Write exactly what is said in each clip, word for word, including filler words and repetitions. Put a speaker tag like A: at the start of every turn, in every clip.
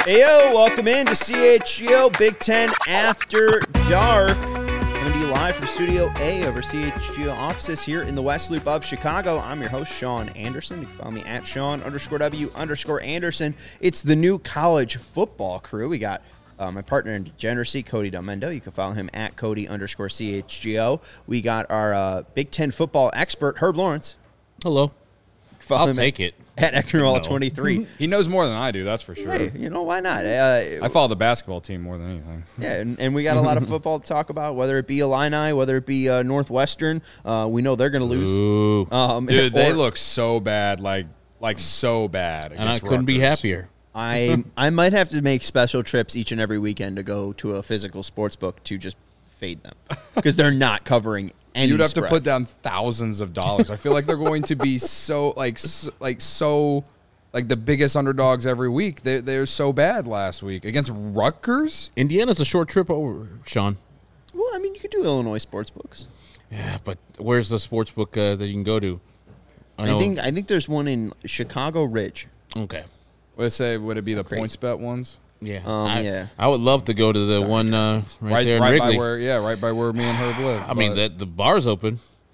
A: Hey, yo, welcome in to C H G O Big Ten After Dark. Coming to you live from Studio A over C H G O offices here in the West Loop of Chicago. I'm your host, Sean Anderson. You can follow me at Sean underscore W underscore Anderson. It's the new college football crew. We got uh, my partner in degeneracy, Cody Delmendo. You can follow him at Cody underscore C H G O. We got our uh, Big Ten football expert, Herb Lawrence.
B: Hello.
A: Follow
B: I'll
A: him
B: take
A: at,
B: it.
A: At Eckernall twenty-three.
C: He knows more than I do, that's for sure.
A: Hey, you know, why not? Uh,
C: I follow the basketball team more than anything.
A: Yeah, and, and we got a lot of football to talk about, whether it be Illini, whether it be uh, Northwestern. Uh, we know they're going to lose.
B: Ooh.
A: Um,
C: Dude, they
A: or-
C: look so bad, like like so bad.
B: And I
C: against
B: couldn't be
C: Rutgers.
B: happier.
A: I I might have to make special trips each and every weekend to go to a physical sports book to just fade them because they're not covering any
C: You'd have
A: spread.
C: to put down thousands of dollars. I feel like they're going to be so like so, like so like the biggest underdogs every week. They they're so bad last week against Rutgers.
B: Indiana's a short trip over, Sean.
A: Well, I mean, you could do Illinois sports books.
B: Yeah, but where's the sports book uh, that you can go to?
A: I,
B: know-
A: think I think there's one in Chicago Ridge.
B: Okay.
C: Would it say would it be the
A: Crazy.
C: points bet ones?
B: Yeah.
A: Um,
B: I,
A: yeah.
B: I would love to go to the one uh, right,
C: Right,
B: there in
C: right
B: Wrigley.
C: by where yeah, right by where me and Herb live.
B: I mean,
C: But
B: the, the bar's open.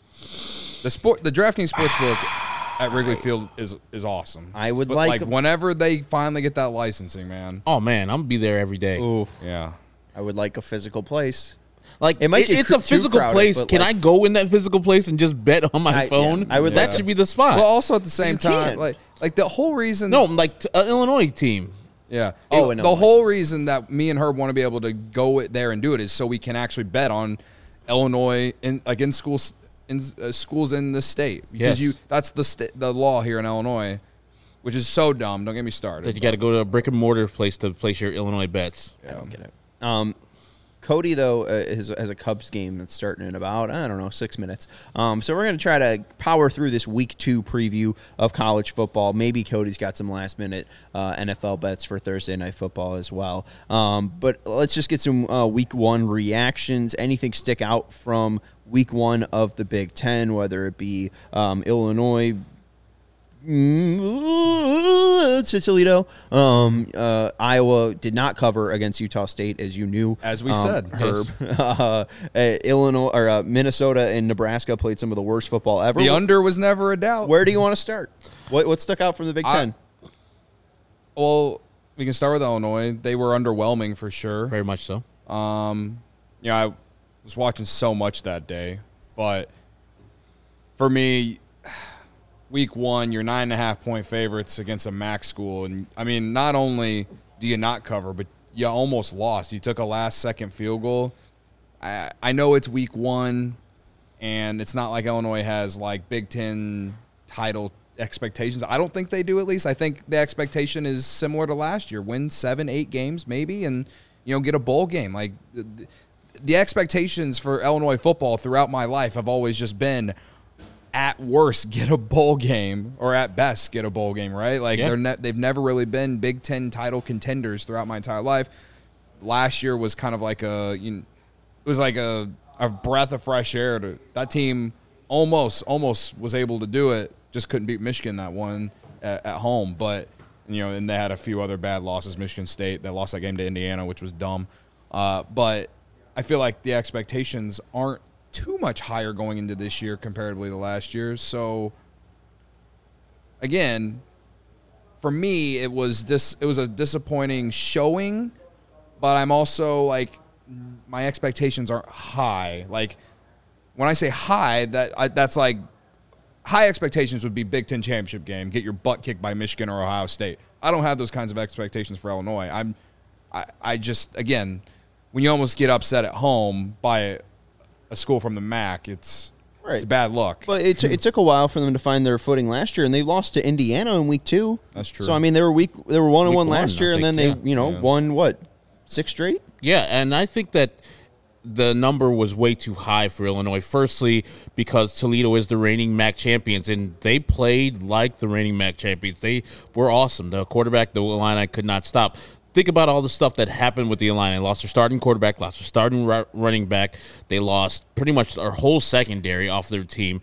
C: the sport the DraftKings Sportsbook at Wrigley Field is is awesome.
A: I would
C: But,
A: like-
C: like whenever they finally get that licensing, man.
B: Oh, man, I'm going to be there every day.
A: Ooh,
C: Yeah.
A: I would like a physical place.
B: Like,
A: It might
B: it-
A: get
B: it's
A: cr-
B: a
A: too
B: physical
A: crowded,
B: place.
A: but,
B: Can
A: like-
B: I go in that physical place and just bet on my
A: I- yeah,
B: phone?
A: I would
B: That
A: like-
B: should be the spot.
C: Well, also at the same
A: You
C: time,
A: can.
C: like like the whole reason
B: no, like t- uh, Illinois team.
C: Yeah.
A: Oh,
C: It-
A: and
C: the
A: Illinois.
C: whole reason that me and Herb want to be able to go it there and do it is so we can actually bet on Illinois in like in schools in uh, schools in the state because
B: Yes.
C: you that's the sta- the law here in Illinois, which is so dumb. Don't get me started.
B: That you got to go to a brick and mortar place to place your Illinois bets.
A: I don't get it. Um, Cody, though, uh, is, has a Cubs game that's starting in about, I don't know, six minutes. Um, so we're going to try to power through this week two preview of college football. Maybe Cody's got some last-minute uh, N F L bets for Thursday Night Football as well. Um, but let's just get some uh, week one reactions. Anything stick out from week one of the Big Ten, whether it be um, Illinois, Mm, to Toledo. Um, uh, Iowa did not cover against Utah State, as you knew.
C: As we
A: um,
C: said.
A: Herb. uh, uh, Illinois or uh, Minnesota and Nebraska played some of the worst football ever.
C: The under was never a doubt.
A: Where do you want to start? What what stuck out from the Big
C: I-
A: Ten?
C: Well, we can start with Illinois. They were underwhelming for sure.
B: Very much so.
C: Um, you know, I was watching so much that day, but for me, week one, you're nine and a half point favorites against a MAC school, and I mean, not only do you not cover, but you almost lost. You took a last second field goal. I I know it's week one, and it's not like Illinois has like Big Ten title expectations. I don't think they do. At least I think the expectation is similar to last year: win seven, eight games maybe, and you know get a bowl game. Like the, the expectations for Illinois football throughout my life have always just been, at worst, get a bowl game, or at best, get a bowl game, right? Like
B: Yeah.
C: they're ne- they've never really been Big Ten title contenders throughout my entire life. Last year was kind of like a, you know, it was like a, a breath of fresh air. To that team, almost almost was able to do it, just couldn't beat Michigan that one at, at home. But you know, and they had a few other bad losses. Michigan State, they lost that game to Indiana, which was dumb. Uh, but I feel like the expectations aren't too much higher going into this year comparatively to last year. So again, for me, it was dis- it was a disappointing showing, but I'm also like, my expectations aren't high. Like when I say high, that I, that's like high expectations would be Big Ten championship game, get your butt kicked by Michigan or Ohio State. I don't have those kinds of expectations for Illinois. I'm I, I just again, when you almost get upset at home by a, a school from the M A C, it's
A: Right.
C: it's bad luck.
A: But it, it took a while for them to find their footing last year, and they lost to Indiana in week two.
C: That's true.
A: So I mean, they were week they were one and
B: Week
A: one
B: one,
A: last
B: I
A: year, and
B: think,
A: then
B: yeah.
A: they you know
C: Yeah.
A: won what six straight.
B: Yeah, and I think that the number was way too high for Illinois. Firstly, because Toledo is the reigning M A C champions, and they played like the reigning M A C champions. They were awesome. The quarterback, the Illini, could not stop. Think about all the stuff that happened with the Illini. They lost their starting quarterback, lost their starting ru- running back. They lost pretty much their whole secondary off their team.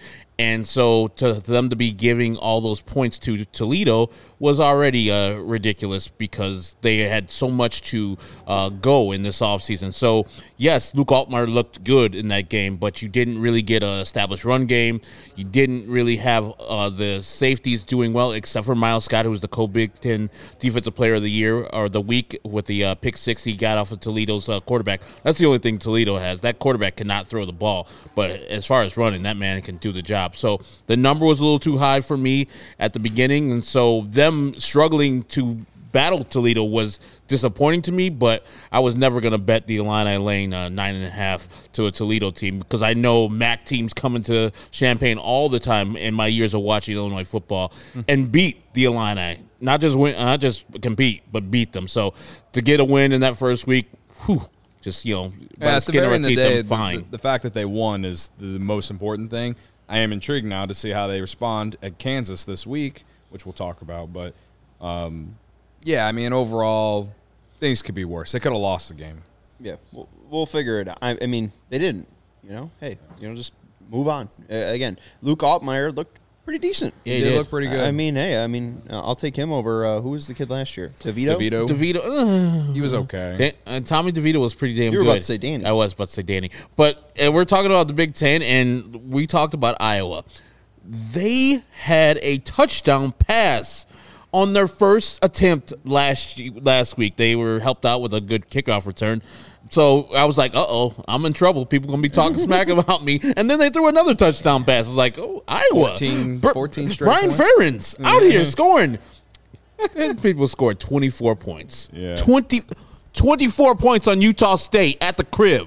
B: And so to them to be giving all those points to Toledo was already uh, ridiculous because they had so much to uh, go in this offseason. So, yes, Luke Altmaier looked good in that game, but you didn't really get an established run game. You didn't really have uh, the safeties doing well, except for Miles Scott, who was the co-Big Ten Defensive Player of the Year or the week with the uh, pick six he got off of Toledo's uh, quarterback. That's the only thing Toledo has. That quarterback cannot throw the ball, but as far as running, that man can do the job. So the number was a little too high for me at the beginning, and so them struggling to battle Toledo was disappointing to me, but I was never going to bet the Illini laying uh, nine and a half to a Toledo team because I know M A C teams coming to Champaign all the time in my years of watching Illinois football mm-hmm. and beat the Illini. Not just win, not just compete, but beat them. So to get a win in that first week, whew, just, you know,
C: yeah, at the very end of the day,
B: fine.
C: The, the, the fact that they won is the most important thing. I am intrigued now to see how they respond at Kansas this week, which we'll talk about. But, um, yeah, I mean, overall, things could be worse. They could have lost the game.
A: Yeah, we'll, we'll figure it out. I, I mean, they didn't. You know, hey, you know, just move on. Uh, again, Luke Altmaier looked pretty decent.
C: Yeah, he, he did look pretty good.
A: I mean, hey, I mean, uh, I'll take him over. Uh, who was the kid last year? DeVito.
C: DeVito.
B: DeVito. Uh,
C: he was okay.
B: Dan, uh, Tommy DeVito was pretty damn
A: you were
B: good.
A: about to say Danny.
B: I was about to say Danny. But uh, we're talking about the Big Ten, and we talked about Iowa. They had a touchdown pass on their first attempt last last week. They were helped out with a good kickoff return. So I was like, uh-oh, I'm in trouble. People going to be talking smack about me. And then they threw another touchdown pass. I was like, oh, Iowa.
C: fourteen, fourteen straight
B: Brian
C: points.
B: Ferentz mm-hmm. out here scoring. And people scored twenty-four points.
C: Yeah.
B: twenty, twenty-four points on Utah State at the crib.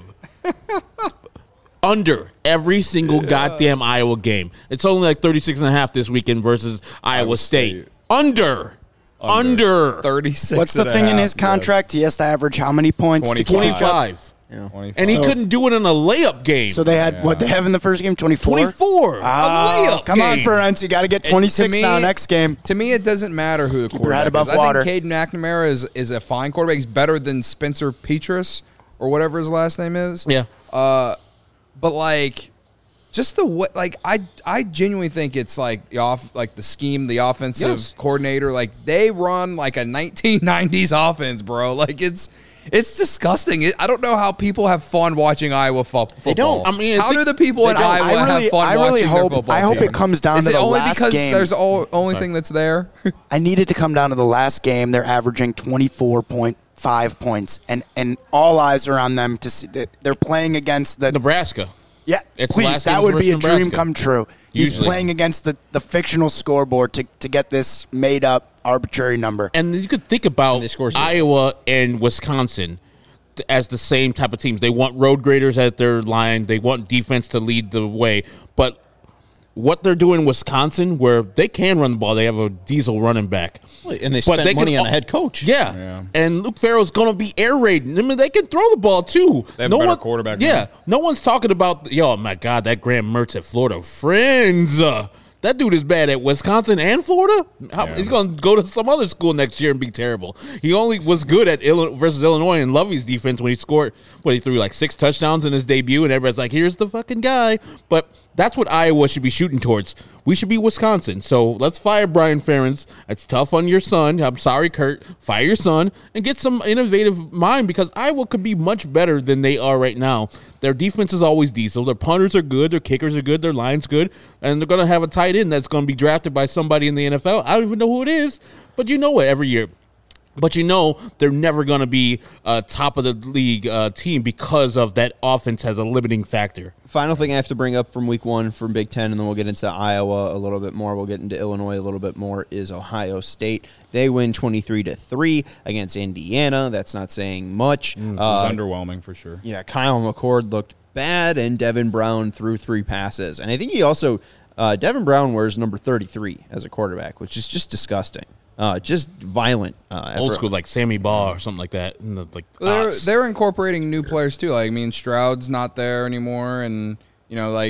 B: Under every single yeah. goddamn Iowa game. It's only like thirty-six and a half this weekend versus Iowa, Iowa State. State. Under. Under.
C: Under. thirty-six.
D: What's the thing in his contract? Yes. He has to average how many points?
B: twenty-five.
A: Yeah.
B: And he so, couldn't do it in a layup game.
D: So they had, yeah. what they have in the first game? twenty-four?
B: twenty-four.
D: Oh,
B: a layup
D: come
B: game.
D: on, Ferentz. You got to get twenty-six
C: me,
D: now next game.
C: To me, it doesn't matter who the
D: Keep
C: quarterback
D: above
C: is.
D: water.
C: I think Caden McNamara is, is a fine quarterback. He's better than Spencer Petras or whatever his last name is.
B: Yeah.
C: Uh, but, like... Just the way, like I, I genuinely think it's like the off, like the scheme, the offensive
B: yes.
C: coordinator, like they run like a nineteen nineties offense, bro. Like it's, it's disgusting. It, I don't know how people have fun watching Iowa fo- football.
A: They don't.
B: I mean,
C: how do the people in Iowa
D: I really,
C: have fun
D: I really
C: watching
D: hope,
C: their football
D: I hope
C: team?
D: it comes down
C: Is
D: to
C: it
D: the
C: only
D: last
C: because
D: game.
C: there's the only thing that's there?
D: I needed to come down to the last game. They're averaging twenty-four point five points, and and all eyes are on them to see that they're playing against the
B: Nebraska.
D: Yeah,
B: it's
D: please, that would be a
B: Nebraska.
D: dream come true. He's
B: Usually.
D: playing against the, the fictional scoreboard to, to get this made-up arbitrary number.
B: And you could think about Iowa and Wisconsin as the same type of teams. They want road graders at their line. They want defense to lead the way. But what they're doing in Wisconsin, where they can run the ball, they have a diesel running back.
A: And they spent
B: they
A: money
B: can,
A: on a head coach.
B: Yeah. yeah. And Luke Farrell's going to be air raiding. I mean, they can throw the ball, too.
C: They have
B: no
C: a better
B: one,
C: quarterback.
B: Yeah. No one's talking about, yo, my God, that Graham Mertz at Florida. Friends. Uh, that dude is bad at Wisconsin and Florida. How, yeah. He's going to go to some other school next year and be terrible. He only was good at Illinois versus Illinois and Lovey's defense when he scored, what, he threw like six touchdowns in his debut, and everybody's like, here's the fucking guy. But that's what Iowa should be shooting towards. We should be Wisconsin. So let's fire Brian Ferentz. It's tough on your son. I'm sorry, Kurt. Fire your son and get some innovative mind because Iowa could be much better than they are right now. Their defense is always diesel. Their punters are good. Their kickers are good. Their line's good. And they're going to have a tight end that's going to be drafted by somebody in the N F L. I don't even know who it is, but you know it every year. But you know they're never going to be a top of the league uh, team because of that offense has a limiting factor.
A: Final thing I have to bring up from week one from Big Ten, and then we'll get into Iowa a little bit more. We'll get into Illinois a little bit more, is Ohio State. They win twenty-three to three against Indiana. That's not saying much.
C: Mm, it
A: uh,
C: was underwhelming for sure.
A: Yeah, Kyle McCord looked bad, and Devin Brown threw three passes. And I think he also, uh, Devin Brown wears number thirty-three as a quarterback, which is just disgusting. Uh, just violent. Uh,
B: Old school, like Sammy Baugh or something like that. And the, like
C: well, they're, they're incorporating new players, too. Like, I mean, Stroud's not there anymore. And, you know, like,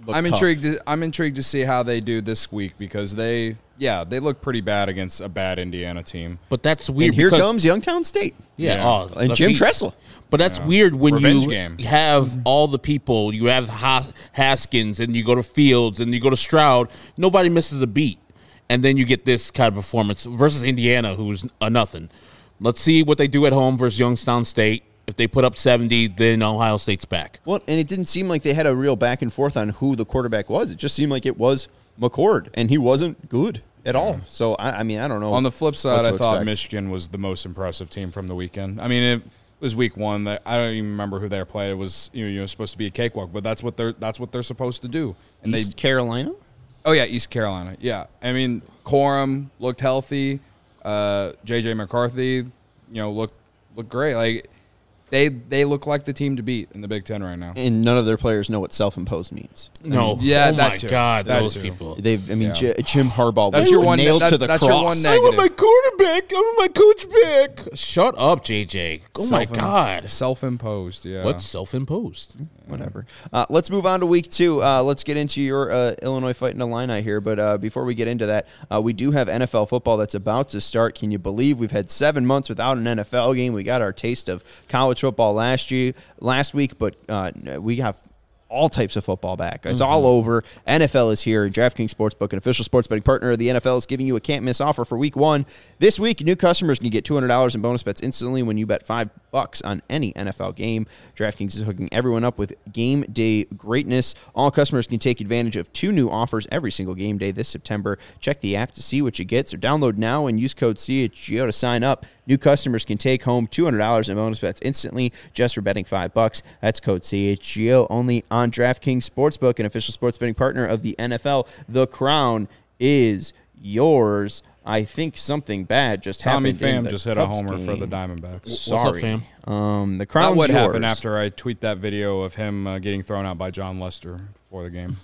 A: look
C: I'm
A: tough.
C: intrigued. To, I'm intrigued to see how they do this week because they, yeah, they look pretty bad against a bad Indiana team.
B: But that's weird.
A: And here
B: because,
A: comes Youngstown State.
B: Yeah,
C: Yeah.
B: Oh,
A: And
B: the
A: Jim
B: feet-
A: Tressel.
B: But that's
C: Yeah.
B: weird when
C: Revenge
B: you
C: game.
B: have all the people. You have Has- Haskins, and you go to Fields, and you go to Stroud. Nobody misses a beat, and then you get this kind of performance versus Indiana, who's a nothing. Let's see what they do at home versus Youngstown State. If they put up seventy, then Ohio State's back.
A: Well, and it didn't seem like they had a real back and forth on who the quarterback was. It just seemed like it was McCord, and he wasn't good at all. So, I, I mean, I don't know.
C: On the flip side,
A: what
C: I
A: to
C: thought
A: expect.
C: Michigan was the most impressive team from the weekend. I mean, it was week one. That I don't even remember who they played. It was you know, you know supposed to be a cakewalk, but that's what they're that's what they're supposed to do. And
A: East
C: they,
A: Carolina?
C: oh yeah, East Carolina. Yeah, I mean, Corum looked healthy. Uh, J J McCarthy, you know, looked looked great. Like they they look like the team to beat in the Big Ten right now.
A: And none of their players know what self-imposed means.
B: No,
C: yeah,
B: oh
C: that
B: my
C: too.
B: God,
C: That
B: those
C: too.
B: people.
A: They've, I mean,
C: Yeah.
A: J- Jim Harbaugh
C: That's
A: was
C: your one-
A: nailed
C: that-
A: to the
C: that's
A: cross.
C: your one
B: I want
C: negative.
B: my quarterback. I want my coach back. Shut up, J J. Oh my
C: Self-
B: God.
C: self-imposed. Yeah,
B: What's self-imposed?
A: Whatever. Uh, let's move on to week two. Uh, let's get into your uh, Illinois Fighting Illini here. But uh, before we get into that, uh, we do have N F L football that's about to start. Can you believe we've had seven months without an N F L game? We got our taste of college football last year, last week, but uh, we have all types of football back. It's all over. N F L is here. DraftKings Sportsbook, an official sports betting partner of the N F L, is giving you a can't-miss offer for week one. This week, new customers can get two hundred dollars in bonus bets instantly when you bet five bucks on any N F L game. DraftKings is hooking everyone up with game day greatness. All customers can take advantage of two new offers every single game day this September. Check the app to see what you get. So download now and use code C H G O to sign up. New customers can take home two hundred dollars in bonus bets instantly just for betting five bucks. That's code C H G O only on DraftKings Sportsbook, an official sports betting partner of the N F L. The crown is yours. I think something bad just
C: Tommy
A: happened. in
C: Pham
A: the
C: just hit a
A: Cubs
C: homer for the
A: game.
C: Diamondbacks.
A: Sorry,
B: What's up, fam?
A: Um, the
C: That
A: crown's
C: would
A: yours.
C: happen after I tweet that video of him uh, getting thrown out by John Lester before the game.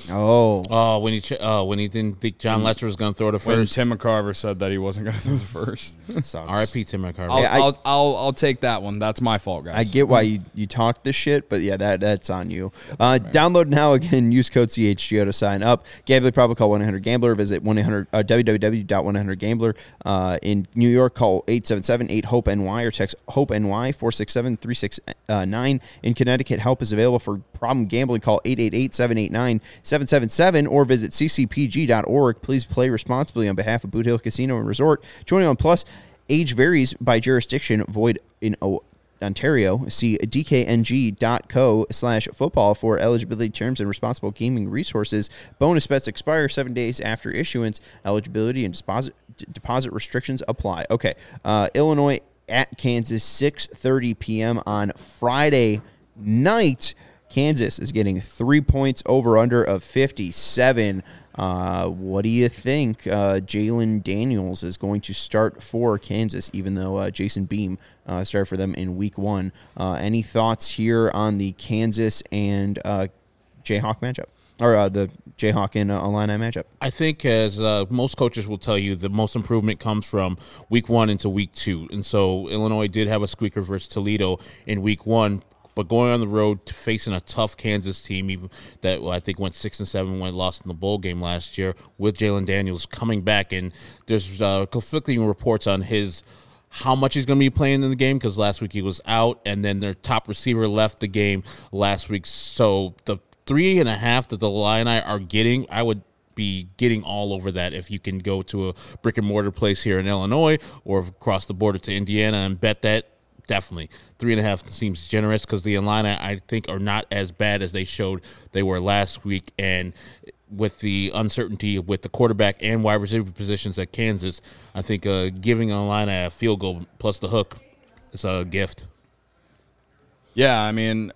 A: Oh,
B: Oh, when he ch- uh, when he didn't think John Lester was going to throw the
C: When
B: first.
C: Tim McCarver said that he wasn't going to throw the first.
A: that sucks.
B: R I P Tim McCarver.
C: I'll,
A: Yeah, I-
C: I'll, I'll, I'll take that one. That's my fault, guys.
A: I get why you, you talk this shit, but yeah, that that's on you. Uh, download now again. Use code C H G O to sign up. Gambling problem? Call one eight hundred gambler. Visit one eight hundred uh, w w w dot one eight hundred gambler. Uh, in New York, call eight seven seven eight hope N Y or text HOPE-NY four six seven three six nine. In Connecticut, help is available for problem gambling. Call eight eight eight seven eight nine seven seven seven or visit c c p g dot org. Please play responsibly on behalf of Boot Hill Casino and Resort. Joining on Plus, age varies by jurisdiction. Void in o- Ontario. See d k n g dot co slash football for eligibility terms and responsible gaming resources. Bonus bets expire seven days after issuance. Eligibility and deposit d- deposit restrictions apply. Okay. Uh, Illinois at Kansas, six thirty p.m. on Friday night. Kansas is getting three points over under of fifty-seven. Uh, what do you think? Uh, Jalen Daniels is going to start for Kansas, even though uh, Jason Beam uh, started for them in week one. Uh, any thoughts here on the Kansas and uh, Jayhawk matchup? Or uh, the Jayhawk and uh, Illini matchup?
B: I think, as uh, most coaches will tell you, the most improvement comes from week one into week two. And so Illinois did have a squeaker versus Toledo in week one, but going on the road to facing a tough Kansas team, even that well, I think went six and seven when lost in the bowl game last year, with Jalen Daniels coming back, and there's uh, conflicting reports on his how much he's going to be playing in the game because last week he was out, and then their top receiver left the game last week. So the three and a half that the Illini are getting, I would be getting all over that if you can go to a brick and mortar place here in Illinois or across the border to Indiana and bet that. Definitely. Three and a half seems generous because the Illini, I think, are not as bad as they showed they were last week. And with the uncertainty with the quarterback and wide receiver positions at Kansas, I think uh, giving Illini a field goal plus the hook is a gift.
C: Yeah, I mean,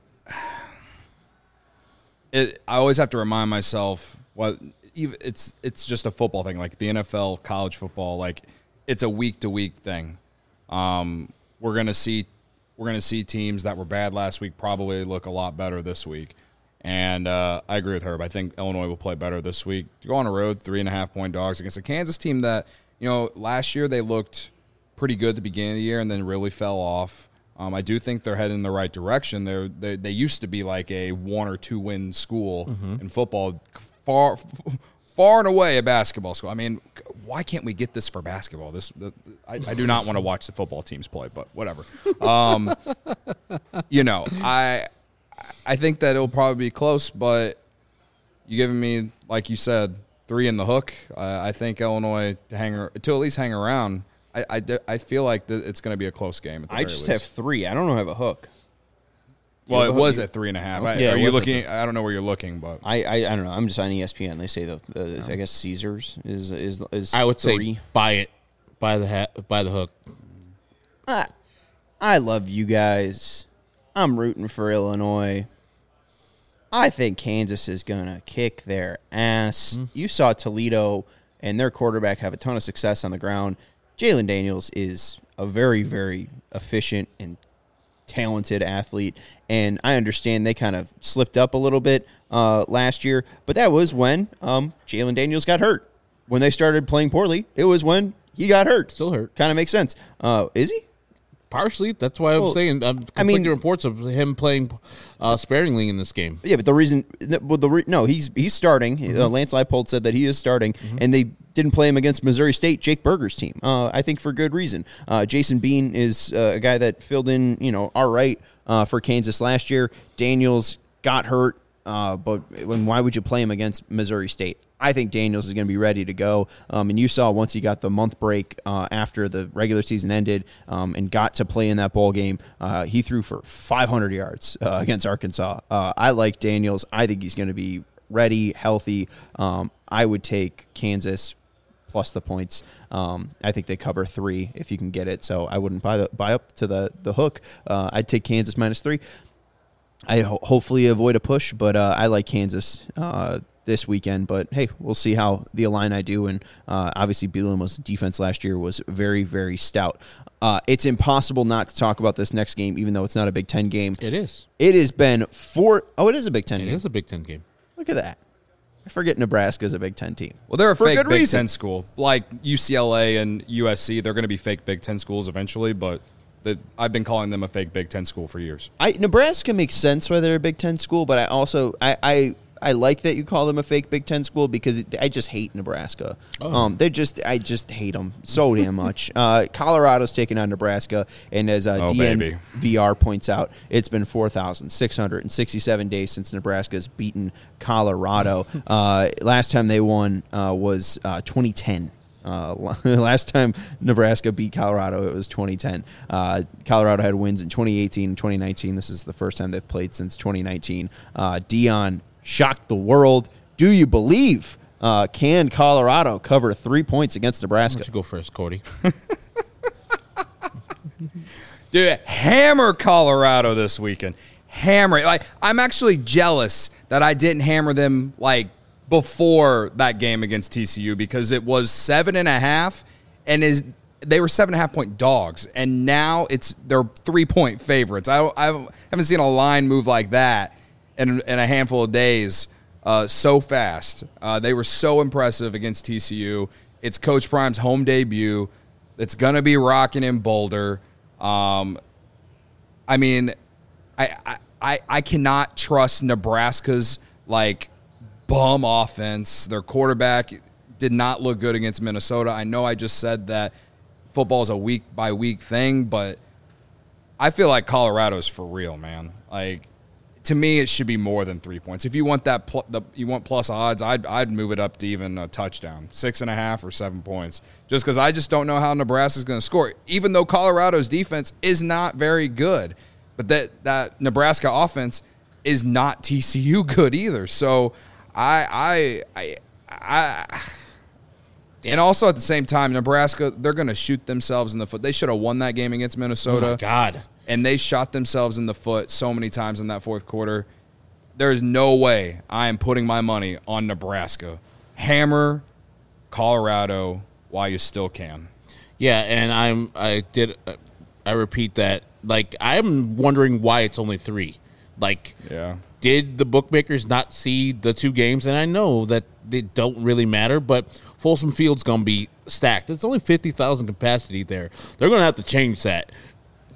C: it. I always have to remind myself what even it's it's just a football thing, like the N F L, college football, like it's a week to week thing. Um, we're gonna see we're gonna see teams that were bad last week probably look a lot better this week, and uh, I agree with Herb. I think Illinois will play better this week. You go on the road, three and a half point dogs against a Kansas team that you know last year they looked pretty good at the beginning of the year and then really fell off. Um, I do think they're heading in the right direction. They're, they they used to be like a one or two win school mm-hmm. in football, far far and away a basketball school. I mean, why can't we get this for basketball? This the, I, I do not want to watch the football teams play, but whatever. Um, you know, I I think that it'll probably be close, but you giving me, like you said, three in the hook. Uh, I think Illinois to hang to at least hang around. I, I, I feel like th- it's going to be a close game. At the
A: I
C: very
A: just
C: least.
A: have three. I don't know if I have a hook.
C: Well,
A: it
C: it was at three and a half. I,
A: Yeah,
C: are
A: it
C: you
A: was
C: looking? I don't know where you're looking, but
A: I, I, I don't know. I'm just on E S P N. They say the, the I guess Caesars is is is.
B: I would
A: three.
B: say buy it, buy the hat, buy the hook.
A: I, I love you guys. I'm rooting for Illinois. I think Kansas is gonna kick their ass. Mm. You saw Toledo and their quarterback have a ton of success on the ground. Jalen Daniels is a very, very efficient and talented athlete, and I understand they kind of slipped up a little bit uh, last year, but that was when um, Jalen Daniels got hurt. When they started playing poorly, it was when he got hurt.
B: Still hurt.
A: Kind of makes sense. Uh, is he?
B: Partially. That's why I'm
A: well,
B: saying I'm conflicting
A: I mean,
B: reports of him playing uh, sparingly in this game.
A: Yeah, but the reason, well, the re, no, he's he's starting. Mm-hmm. Uh, Lance Leipold said that he is starting, mm-hmm. and they didn't play him against Missouri State, Jake Berger's team. Uh, I think for good reason. Uh, Jason Bean is uh, a guy that filled in, you know, all right uh, for Kansas last year. Daniels got hurt, uh, but when why would you play him against Missouri State? I think Daniels is going to be ready to go. Um, and you saw once he got the month break uh, after the regular season ended um, and got to play in that bowl game, uh, he threw for five hundred yards uh, against Arkansas. Uh, I like Daniels. I think he's going to be ready, healthy. Um, I would take Kansas plus the points. Um, I think they cover three if you can get it. So I wouldn't buy the, buy up to the, the hook. Uh, I'd take Kansas minus three. I ho- hopefully avoid a push, but uh, I like Kansas uh, this weekend. But, hey, we'll see how the Illini do. And uh, obviously Bielema's defense last year was very, very stout. Uh, it's impossible not to talk about this next game, even though it's not a Big Ten game.
B: It is.
A: It has been four – oh, it is a Big Ten
B: it
A: game.
B: It is a Big Ten game.
A: Look at that. I forget Nebraska's a Big Ten team.
C: Well, they're a
A: For
C: fake
A: good
C: Big
A: reason.
C: Ten school. Like U C L A and U S C, they're going to be fake Big Ten schools eventually, but the, I've been calling them a fake Big Ten school for years.
A: I Nebraska makes sense why they're a Big Ten school, but I also I, I, I like that you call them a fake Big Ten school because it, I just hate Nebraska. Oh. Um, they just I just hate them so damn much. Uh, Colorado's taking on Nebraska, and as uh,
C: oh,
A: D N
C: baby.
A: V R points out, it's been four thousand six hundred sixty-seven days since Nebraska's beaten Colorado. uh, last time they won uh, was uh, twenty ten. Uh, last time Nebraska beat Colorado, it was twenty ten. Uh, Colorado had wins in twenty eighteen and twenty nineteen. This is the first time they've played since twenty nineteen. Uh, Dion shocked the world. Do you believe? Uh, can Colorado cover three points against Nebraska?
B: Why don't you go first, Cody?
C: Dude, hammer Colorado this weekend. Hammer it. Like, I'm actually jealous that I didn't hammer them, like, before that game against T C U because it was seven and a half and is they were seven and a half point dogs and now it's they're three point favorites. I, I haven't seen a line move like that in, in a handful of days uh, so fast. Uh, they were so impressive against T C U. It's Coach Prime's home debut. It's gonna be rocking in Boulder. Um, I mean, I I I cannot trust Nebraska's like. Bum offense. Their quarterback did not look good against Minnesota. I know I just said that football is a week by week thing, but I feel like Colorado's for real, man. Like to me, it should be more than three points. If you want that, pl- the, you want plus odds, I'd I'd move it up to even a touchdown, six and a half or seven points, just because I just don't know how Nebraska's going to score. Even though Colorado's defense is not very good, but that that Nebraska offense is not T C U good either. So. I, I, I, I, and also at the same time, Nebraska, they're going to shoot themselves in the foot. They should have won that game against Minnesota.
B: Oh, my God.
C: And they shot themselves in the foot so many times in that fourth quarter. There is no way I am putting my money on Nebraska. Hammer Colorado while you still can.
B: Yeah, and I'm, I did, I repeat that. Like, I'm wondering why it's only three. Like,
C: yeah.
B: Did the bookmakers not see the two games? And I know that they don't really matter, but Folsom Field's going to be stacked. It's only fifty thousand capacity there. They're going to have to change that.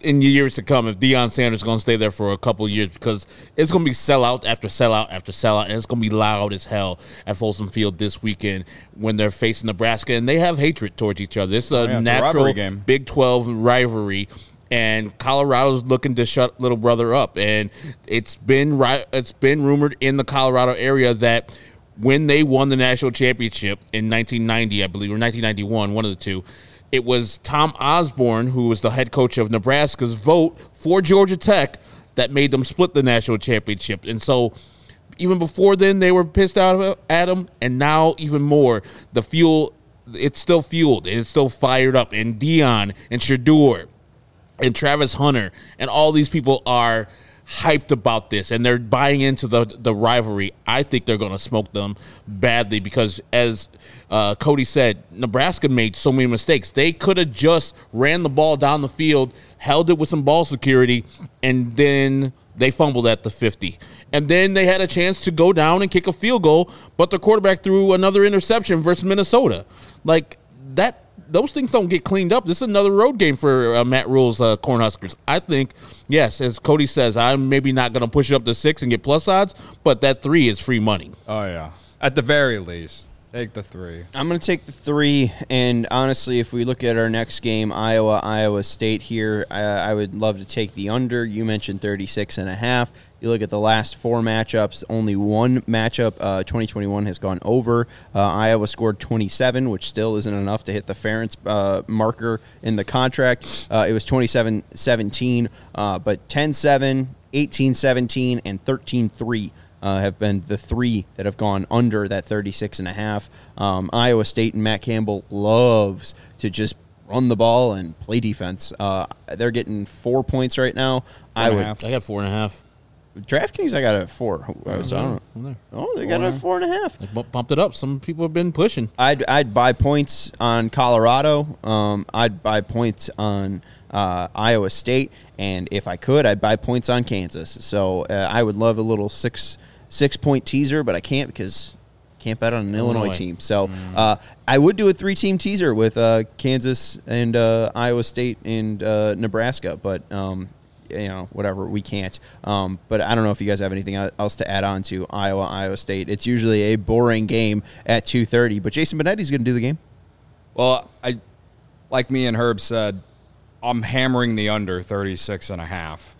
B: in years to come if Deion Sanders is going to stay there for a couple of years, because it's going to be sellout after sellout after sellout, and it's going to be loud as hell at Folsom Field this weekend when they're facing Nebraska, and they have hatred towards each other. It's a
C: Oh, yeah, it's a
B: natural
C: rivalry game.
B: Big twelve rivalry. And Colorado's looking to shut little brother up, and it's been ri- it's been rumored in the Colorado area that when they won the national championship in nineteen ninety, I believe, or nineteen ninety-one, one of the two, it was Tom Osborne, who was the head coach of Nebraska's vote for Georgia Tech that made them split the national championship. And so even before then, they were pissed out at him, and now even more, the fuel, it's still fueled, and it's still fired up, and Deion and Shedeur and Travis Hunter and all these people are hyped about this, and they're buying into the the rivalry. I think they're going to smoke them badly because, as uh, Cody said, Nebraska made so many mistakes. They could have just ran the ball down the field, held it with some ball security, and then they fumbled at the fifty. And then they had a chance to go down and kick a field goal, but the quarterback threw another interception versus Minnesota. Like, that. Those things don't get cleaned up. This is another road game for uh, Matt Rule's uh, Cornhuskers. I think, yes, as Cody says, I'm maybe not going to push it up to six and get plus odds, but that three is free money.
C: Oh, yeah. At the very least, take the three.
A: I'm going to take the three, and honestly, if we look at our next game, Iowa, Iowa State here, I, I would love to take the under. You mentioned thirty-six and a half. You look at the last four matchups, only one matchup, uh, twenty twenty-one, has gone over. Uh, Iowa scored twenty-seven, which still isn't enough to hit the Ferentz uh, marker in the contract. Uh, it was twenty-seven seventeen, uh, but ten seven, eighteen seventeen, and thirteen three. Uh, have been the three that have gone under that thirty-six and a half. Um, Iowa State and Matt Campbell loves to just run the ball and play defense. Uh, they're getting four points right now. I
C: and a
A: would
C: half.
B: I got four and a half.
A: DraftKings. I got it at four. So I don't know. Oh, they got it at four and a half.
B: They bu- bumped it up. Some people have been pushing.
A: I'd I'd buy points on Colorado. Um, I'd buy points on uh, Iowa State, and if I could, I'd buy points on Kansas. So uh, I would love a little six six point teaser, but I can't because I can't bet on an Illinois,
B: Illinois.
A: team. So uh, I would do a three team teaser with uh, Kansas and uh, Iowa State and uh, Nebraska, but. Um, you know, whatever, we can't. Um, but I don't know if you guys have anything else to add on to Iowa, Iowa State. It's usually a boring game at two thirty, but Jason Benetti's going to do the game.
C: Well, I, like me and Herb said, I'm hammering the under thirty-six and a half.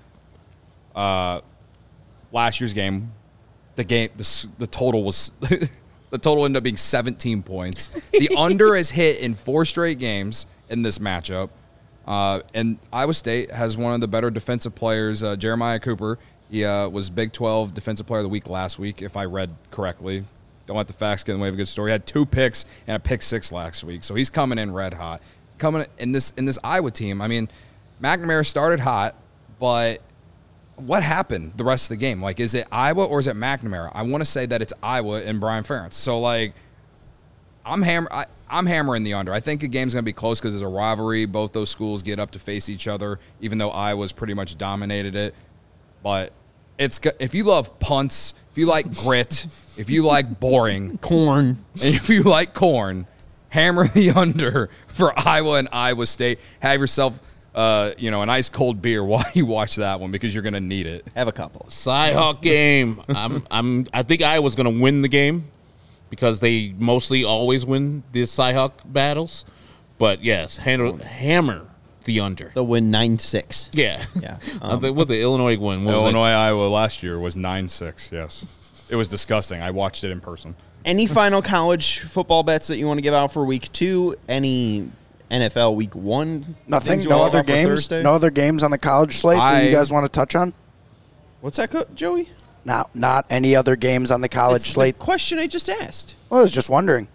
C: Uh, last year's game, the game, the, the total was, the total ended up being seventeen points. The under is hit in four straight games in this matchup. Uh, and Iowa State has one of the better defensive players, uh, Jeremiah Cooper. He uh, was Big twelve Defensive Player of the Week last week, if I read correctly. Don't let the facts get in the way of a good story. He had two picks and a pick six last week, so he's coming in red hot. Coming in this in this Iowa team, I mean, McNamara started hot, but what happened the rest of the game? Like, is it Iowa or is it McNamara? I want to say that it's Iowa and Brian Ferentz. So, like, I'm hammer. I, I'm hammering the under. I think the game's going to be close because there's a rivalry. Both those schools get up to face each other, even though Iowa's pretty much dominated it. But it's if you love punts, if you like grit, if you like boring,
A: Corn.
C: and if you like corn, hammer the under for Iowa and Iowa State. Have yourself, uh, you know, an ice cold beer while you watch that one because you're going to need it.
A: Have a couple.
B: Cy-Hawk game. I'm. I'm. I think Iowa's going to win the game, because they mostly always win the Cy-Hawk battles. But, yes, handle, hammer the under.
A: They'll win nine six.
B: Yeah.
A: Yeah.
B: Um, what the Illinois win? What was it?
C: Illinois, Iowa last year was nine six, yes. It was disgusting. I watched it in person.
A: Any final college football bets that you want to give out for week two? Any N F L week one?
D: Nothing.
A: things you
D: No
A: want to
D: other
A: offer
D: games.
A: Thursday?
D: No other games on the college slate that
C: I-
D: you guys want to touch on?
A: What's that, Co- Joey?
D: Not not any other games on the college
A: It's
D: slate.
A: the question I just asked.
D: Well, I was just wondering.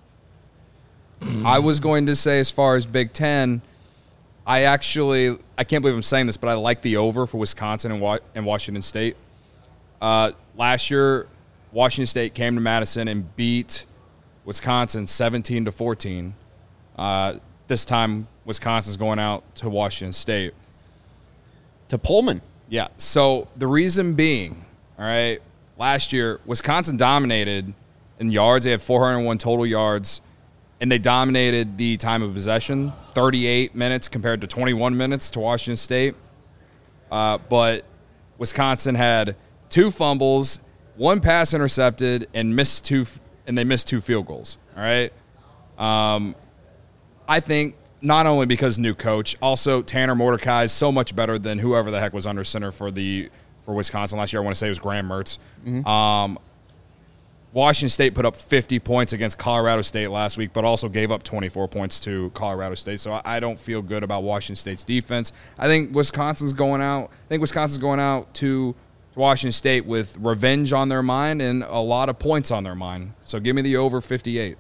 C: I was going to say, as far as Big Ten, I actually, I can't believe I'm saying this, but I like the over for Wisconsin and, Wa- and Washington State. Uh, last year, Washington State came to Madison and beat Wisconsin seventeen to fourteen. Uh, this time, Wisconsin's going out to Washington State.
A: To Pullman.
C: Yeah, so the reason being, all right, last year, Wisconsin dominated in yards. They had four hundred one total yards, and they dominated the time of possession, thirty-eight minutes compared to twenty-one minutes to Washington State. Uh, but Wisconsin had two fumbles, one pass intercepted, and missed two, and they missed two field goals. All right. Um, I think not only because new coach, also Tanner Mordecai is so much better than whoever the heck was under center for the for Wisconsin last year. I want to say it was Graham Mertz. Mm-hmm. Um, Washington State put up fifty points against Colorado State last week, but also gave up twenty-four points to Colorado State. So I don't feel good about Washington State's defense. I think Wisconsin's going out. I think Wisconsin's going out to Washington State with revenge on their mind and a lot of points on their mind. So give me the over fifty-eight.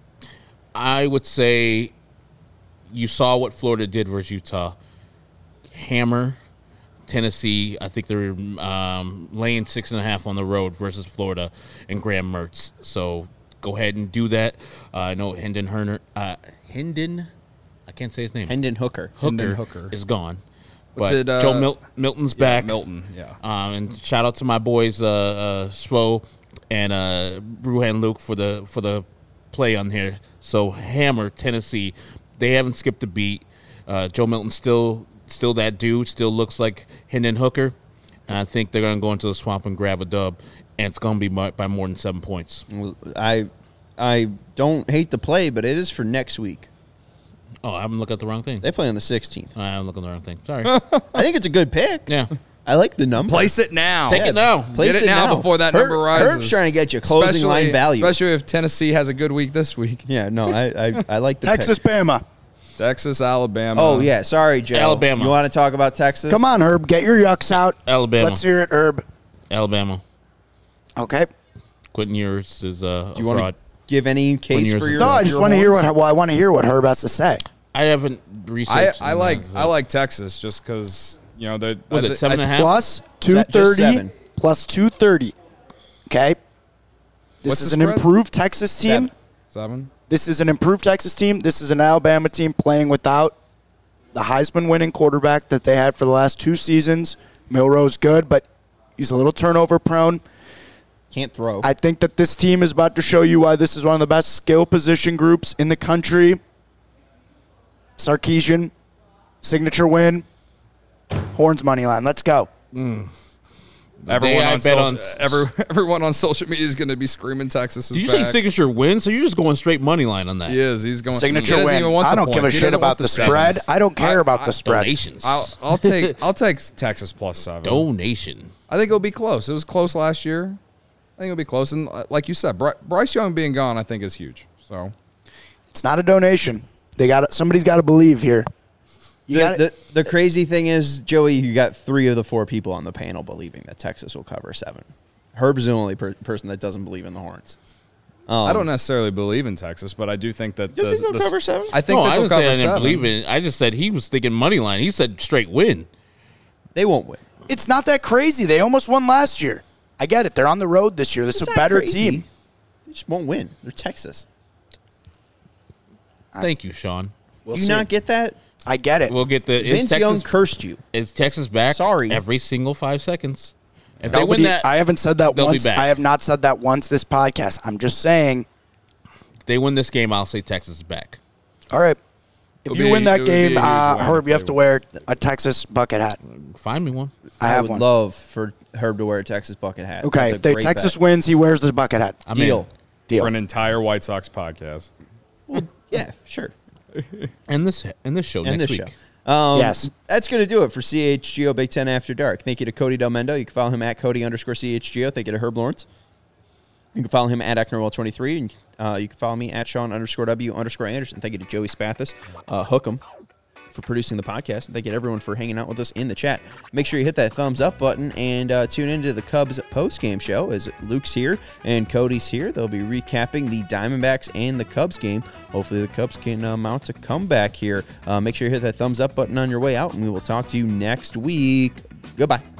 B: I would say you saw what Florida did versus Utah. Hammer Tennessee. I think they're um, laying six and a half on the road versus Florida and Graham Mertz. So go ahead and do that. Uh, I know Hendon Herner, uh, Hendon, I can't say his name.
A: Hendon Hooker.
B: Hooker,
C: Hendon Hooker.
B: is gone.
C: What's
B: but
C: it, uh,
B: Joe Mil- Milton's
C: yeah,
B: back.
C: Milton, yeah.
B: Um, and shout out to my boys, uh, uh, Svo and uh, Bruhan Luke for the for the play on here. So Hammer Tennessee, they haven't skipped a beat. Uh, Joe Milton still. Still that dude, still looks like Hendon Hooker. And I think they're going to go into the swamp and grab a dub, and it's going to be by, by more than seven points.
A: I I don't hate the play, but it is for next week.
B: Oh, I haven't looked at the wrong thing.
A: They play on the sixteenth.
B: I haven't looked at the wrong thing. Sorry.
A: I think it's a good pick.
B: Yeah.
A: I like the number.
C: Place it now.
B: Take it now.
A: Place
C: Get it, now, before that
A: Herb,
C: number rises.
A: Herb's trying to get you closing
C: Especially-
A: line value.
C: Especially if Tennessee has a good week this week.
A: Yeah, no, I I, I like the
D: Texas,
A: pick.
D: Bama.
C: Texas, Alabama.
A: Oh, yeah. Sorry, Joe.
B: Alabama.
A: You want to talk about Texas?
D: Come on, Herb. Get your yucks out.
B: Alabama.
D: Let's hear it, Herb.
B: Alabama.
D: Okay.
B: Quentin Ewers is uh,
A: Do you
B: a
A: want
B: fraud.
A: to give any case
B: years
A: for
B: is
A: your
D: No, I just
A: your
D: want to hear
A: horns?
D: what. Well, I want to hear what Herb has to say.
B: I haven't
C: I,
B: researched.
C: I like I like Texas just because, you know, the
B: Was it seven and a half?
D: Plus two
A: that just
D: thirty.
A: seven?
D: Plus two thirty. Okay. This
C: What's
D: is
C: the
D: an
C: spread?
D: improved Texas team.
A: Seven.
C: Seven?
D: This is an improved Texas team. This is an Alabama team playing without the Heisman winning quarterback that they had for the last two seasons. Milroe's good, but he's a little turnover prone.
A: Can't throw.
D: I think that this team is about to show you why this is one of the best skill position groups in the country. Sarkisian, signature win. Horns money line. Let's go.
C: Everyone
B: I
C: on,
B: bet
C: social,
B: on-
C: every, everyone on social media is going to be screaming Texas is
B: Did you
C: back.
B: say signature win? So you're just going straight money line on that.
C: He is. He's going.
D: Signature
C: he doesn't
D: win.
C: even want
D: I
C: the
D: don't give a
C: points. He
D: shit
C: doesn't
D: about
C: want
D: the
C: sevens.
D: spread. I don't care
C: I-
D: about
C: I-
D: the spread.
B: Donations.
C: I'll, I'll take I'll take Texas plus seven.
B: Donation.
C: I think it'll be close. It was close last year. I think it'll be close. And uh, like you said, Bry- Bryce Young being gone, I think is huge. So
D: It's not a donation. They got somebody's got to believe here. You
A: the,
D: got
A: the, the crazy thing is, Joey, you got three of the four people on the panel believing that Texas will cover seven. Herb's the only per- person that doesn't believe in the Horns. Um,
C: I don't necessarily believe in Texas, but I do think that
A: You
C: the,
A: think they'll
C: the-
A: cover seven?
C: I think
B: No,
C: that
B: I
C: they'll
B: didn't say
C: cover
B: I didn't
C: seven.
B: believe in it. I just said he was thinking money line. He said straight win.
A: They won't win.
D: It's not that crazy. They almost won last year. I get it. They're on the road this year. This is
A: It's
D: a
A: not
D: better
A: crazy.
D: team.
A: They just won't win. They're Texas.
B: Thank you, Sean.
D: We'll
A: Do you
D: see.
A: not get that?
D: I get it.
B: We'll get the is
A: Vince Young
B: Texas,
A: cursed you.
B: is Texas back
A: Sorry.
B: every single five seconds. If they
D: Nobody-
B: win that,
D: I haven't said that
B: they'll be
D: once.
B: back.
D: I have not said that once this podcast. I'm just saying.
B: if they win this game, I'll say Texas is back.
D: All right. If
C: It'll
D: you
C: be-
D: win
C: it
D: that
C: would be a
D: game,
C: huge
D: uh,
C: win
D: Herb,
C: if
D: you have
C: they
D: to
C: win.
D: wear a Texas bucket hat.
B: Find me one.
D: I
A: I,
D: have
A: would
D: one.
A: love for Herb to wear a Texas bucket hat.
D: Okay.
A: That's a
D: If they,
A: great
D: Texas
A: bet.
D: wins, he wears the bucket hat.
B: I'm
A: Deal.
B: in.
D: Deal.
C: for an entire White Sox podcast.
A: Yeah, sure.
B: And this and this show
A: And
B: next
A: this
B: week.
A: show. Um,
D: Yes.
A: That's going to do it for C H G O Big Ten After Dark. Thank you to Cody Del Mendo. You can follow him at Cody underscore C H G O. Thank you to Herb Lawrence. You can follow him at Ecknerwell twenty-three. And uh, you can follow me at Sean underscore W underscore Anderson. Thank you to Joey Spathis, uh, Hookem, for producing the podcast. And thank you to everyone for hanging out with us in the chat. Make sure you hit that thumbs up button and uh, tune into the Cubs post-game show as Luke's here and Cody's here. They'll be recapping the Diamondbacks and the Cubs game. Hopefully the Cubs can uh, mount a comeback here. Uh, make sure you hit that thumbs up button on your way out, and we will talk to you next week. Goodbye.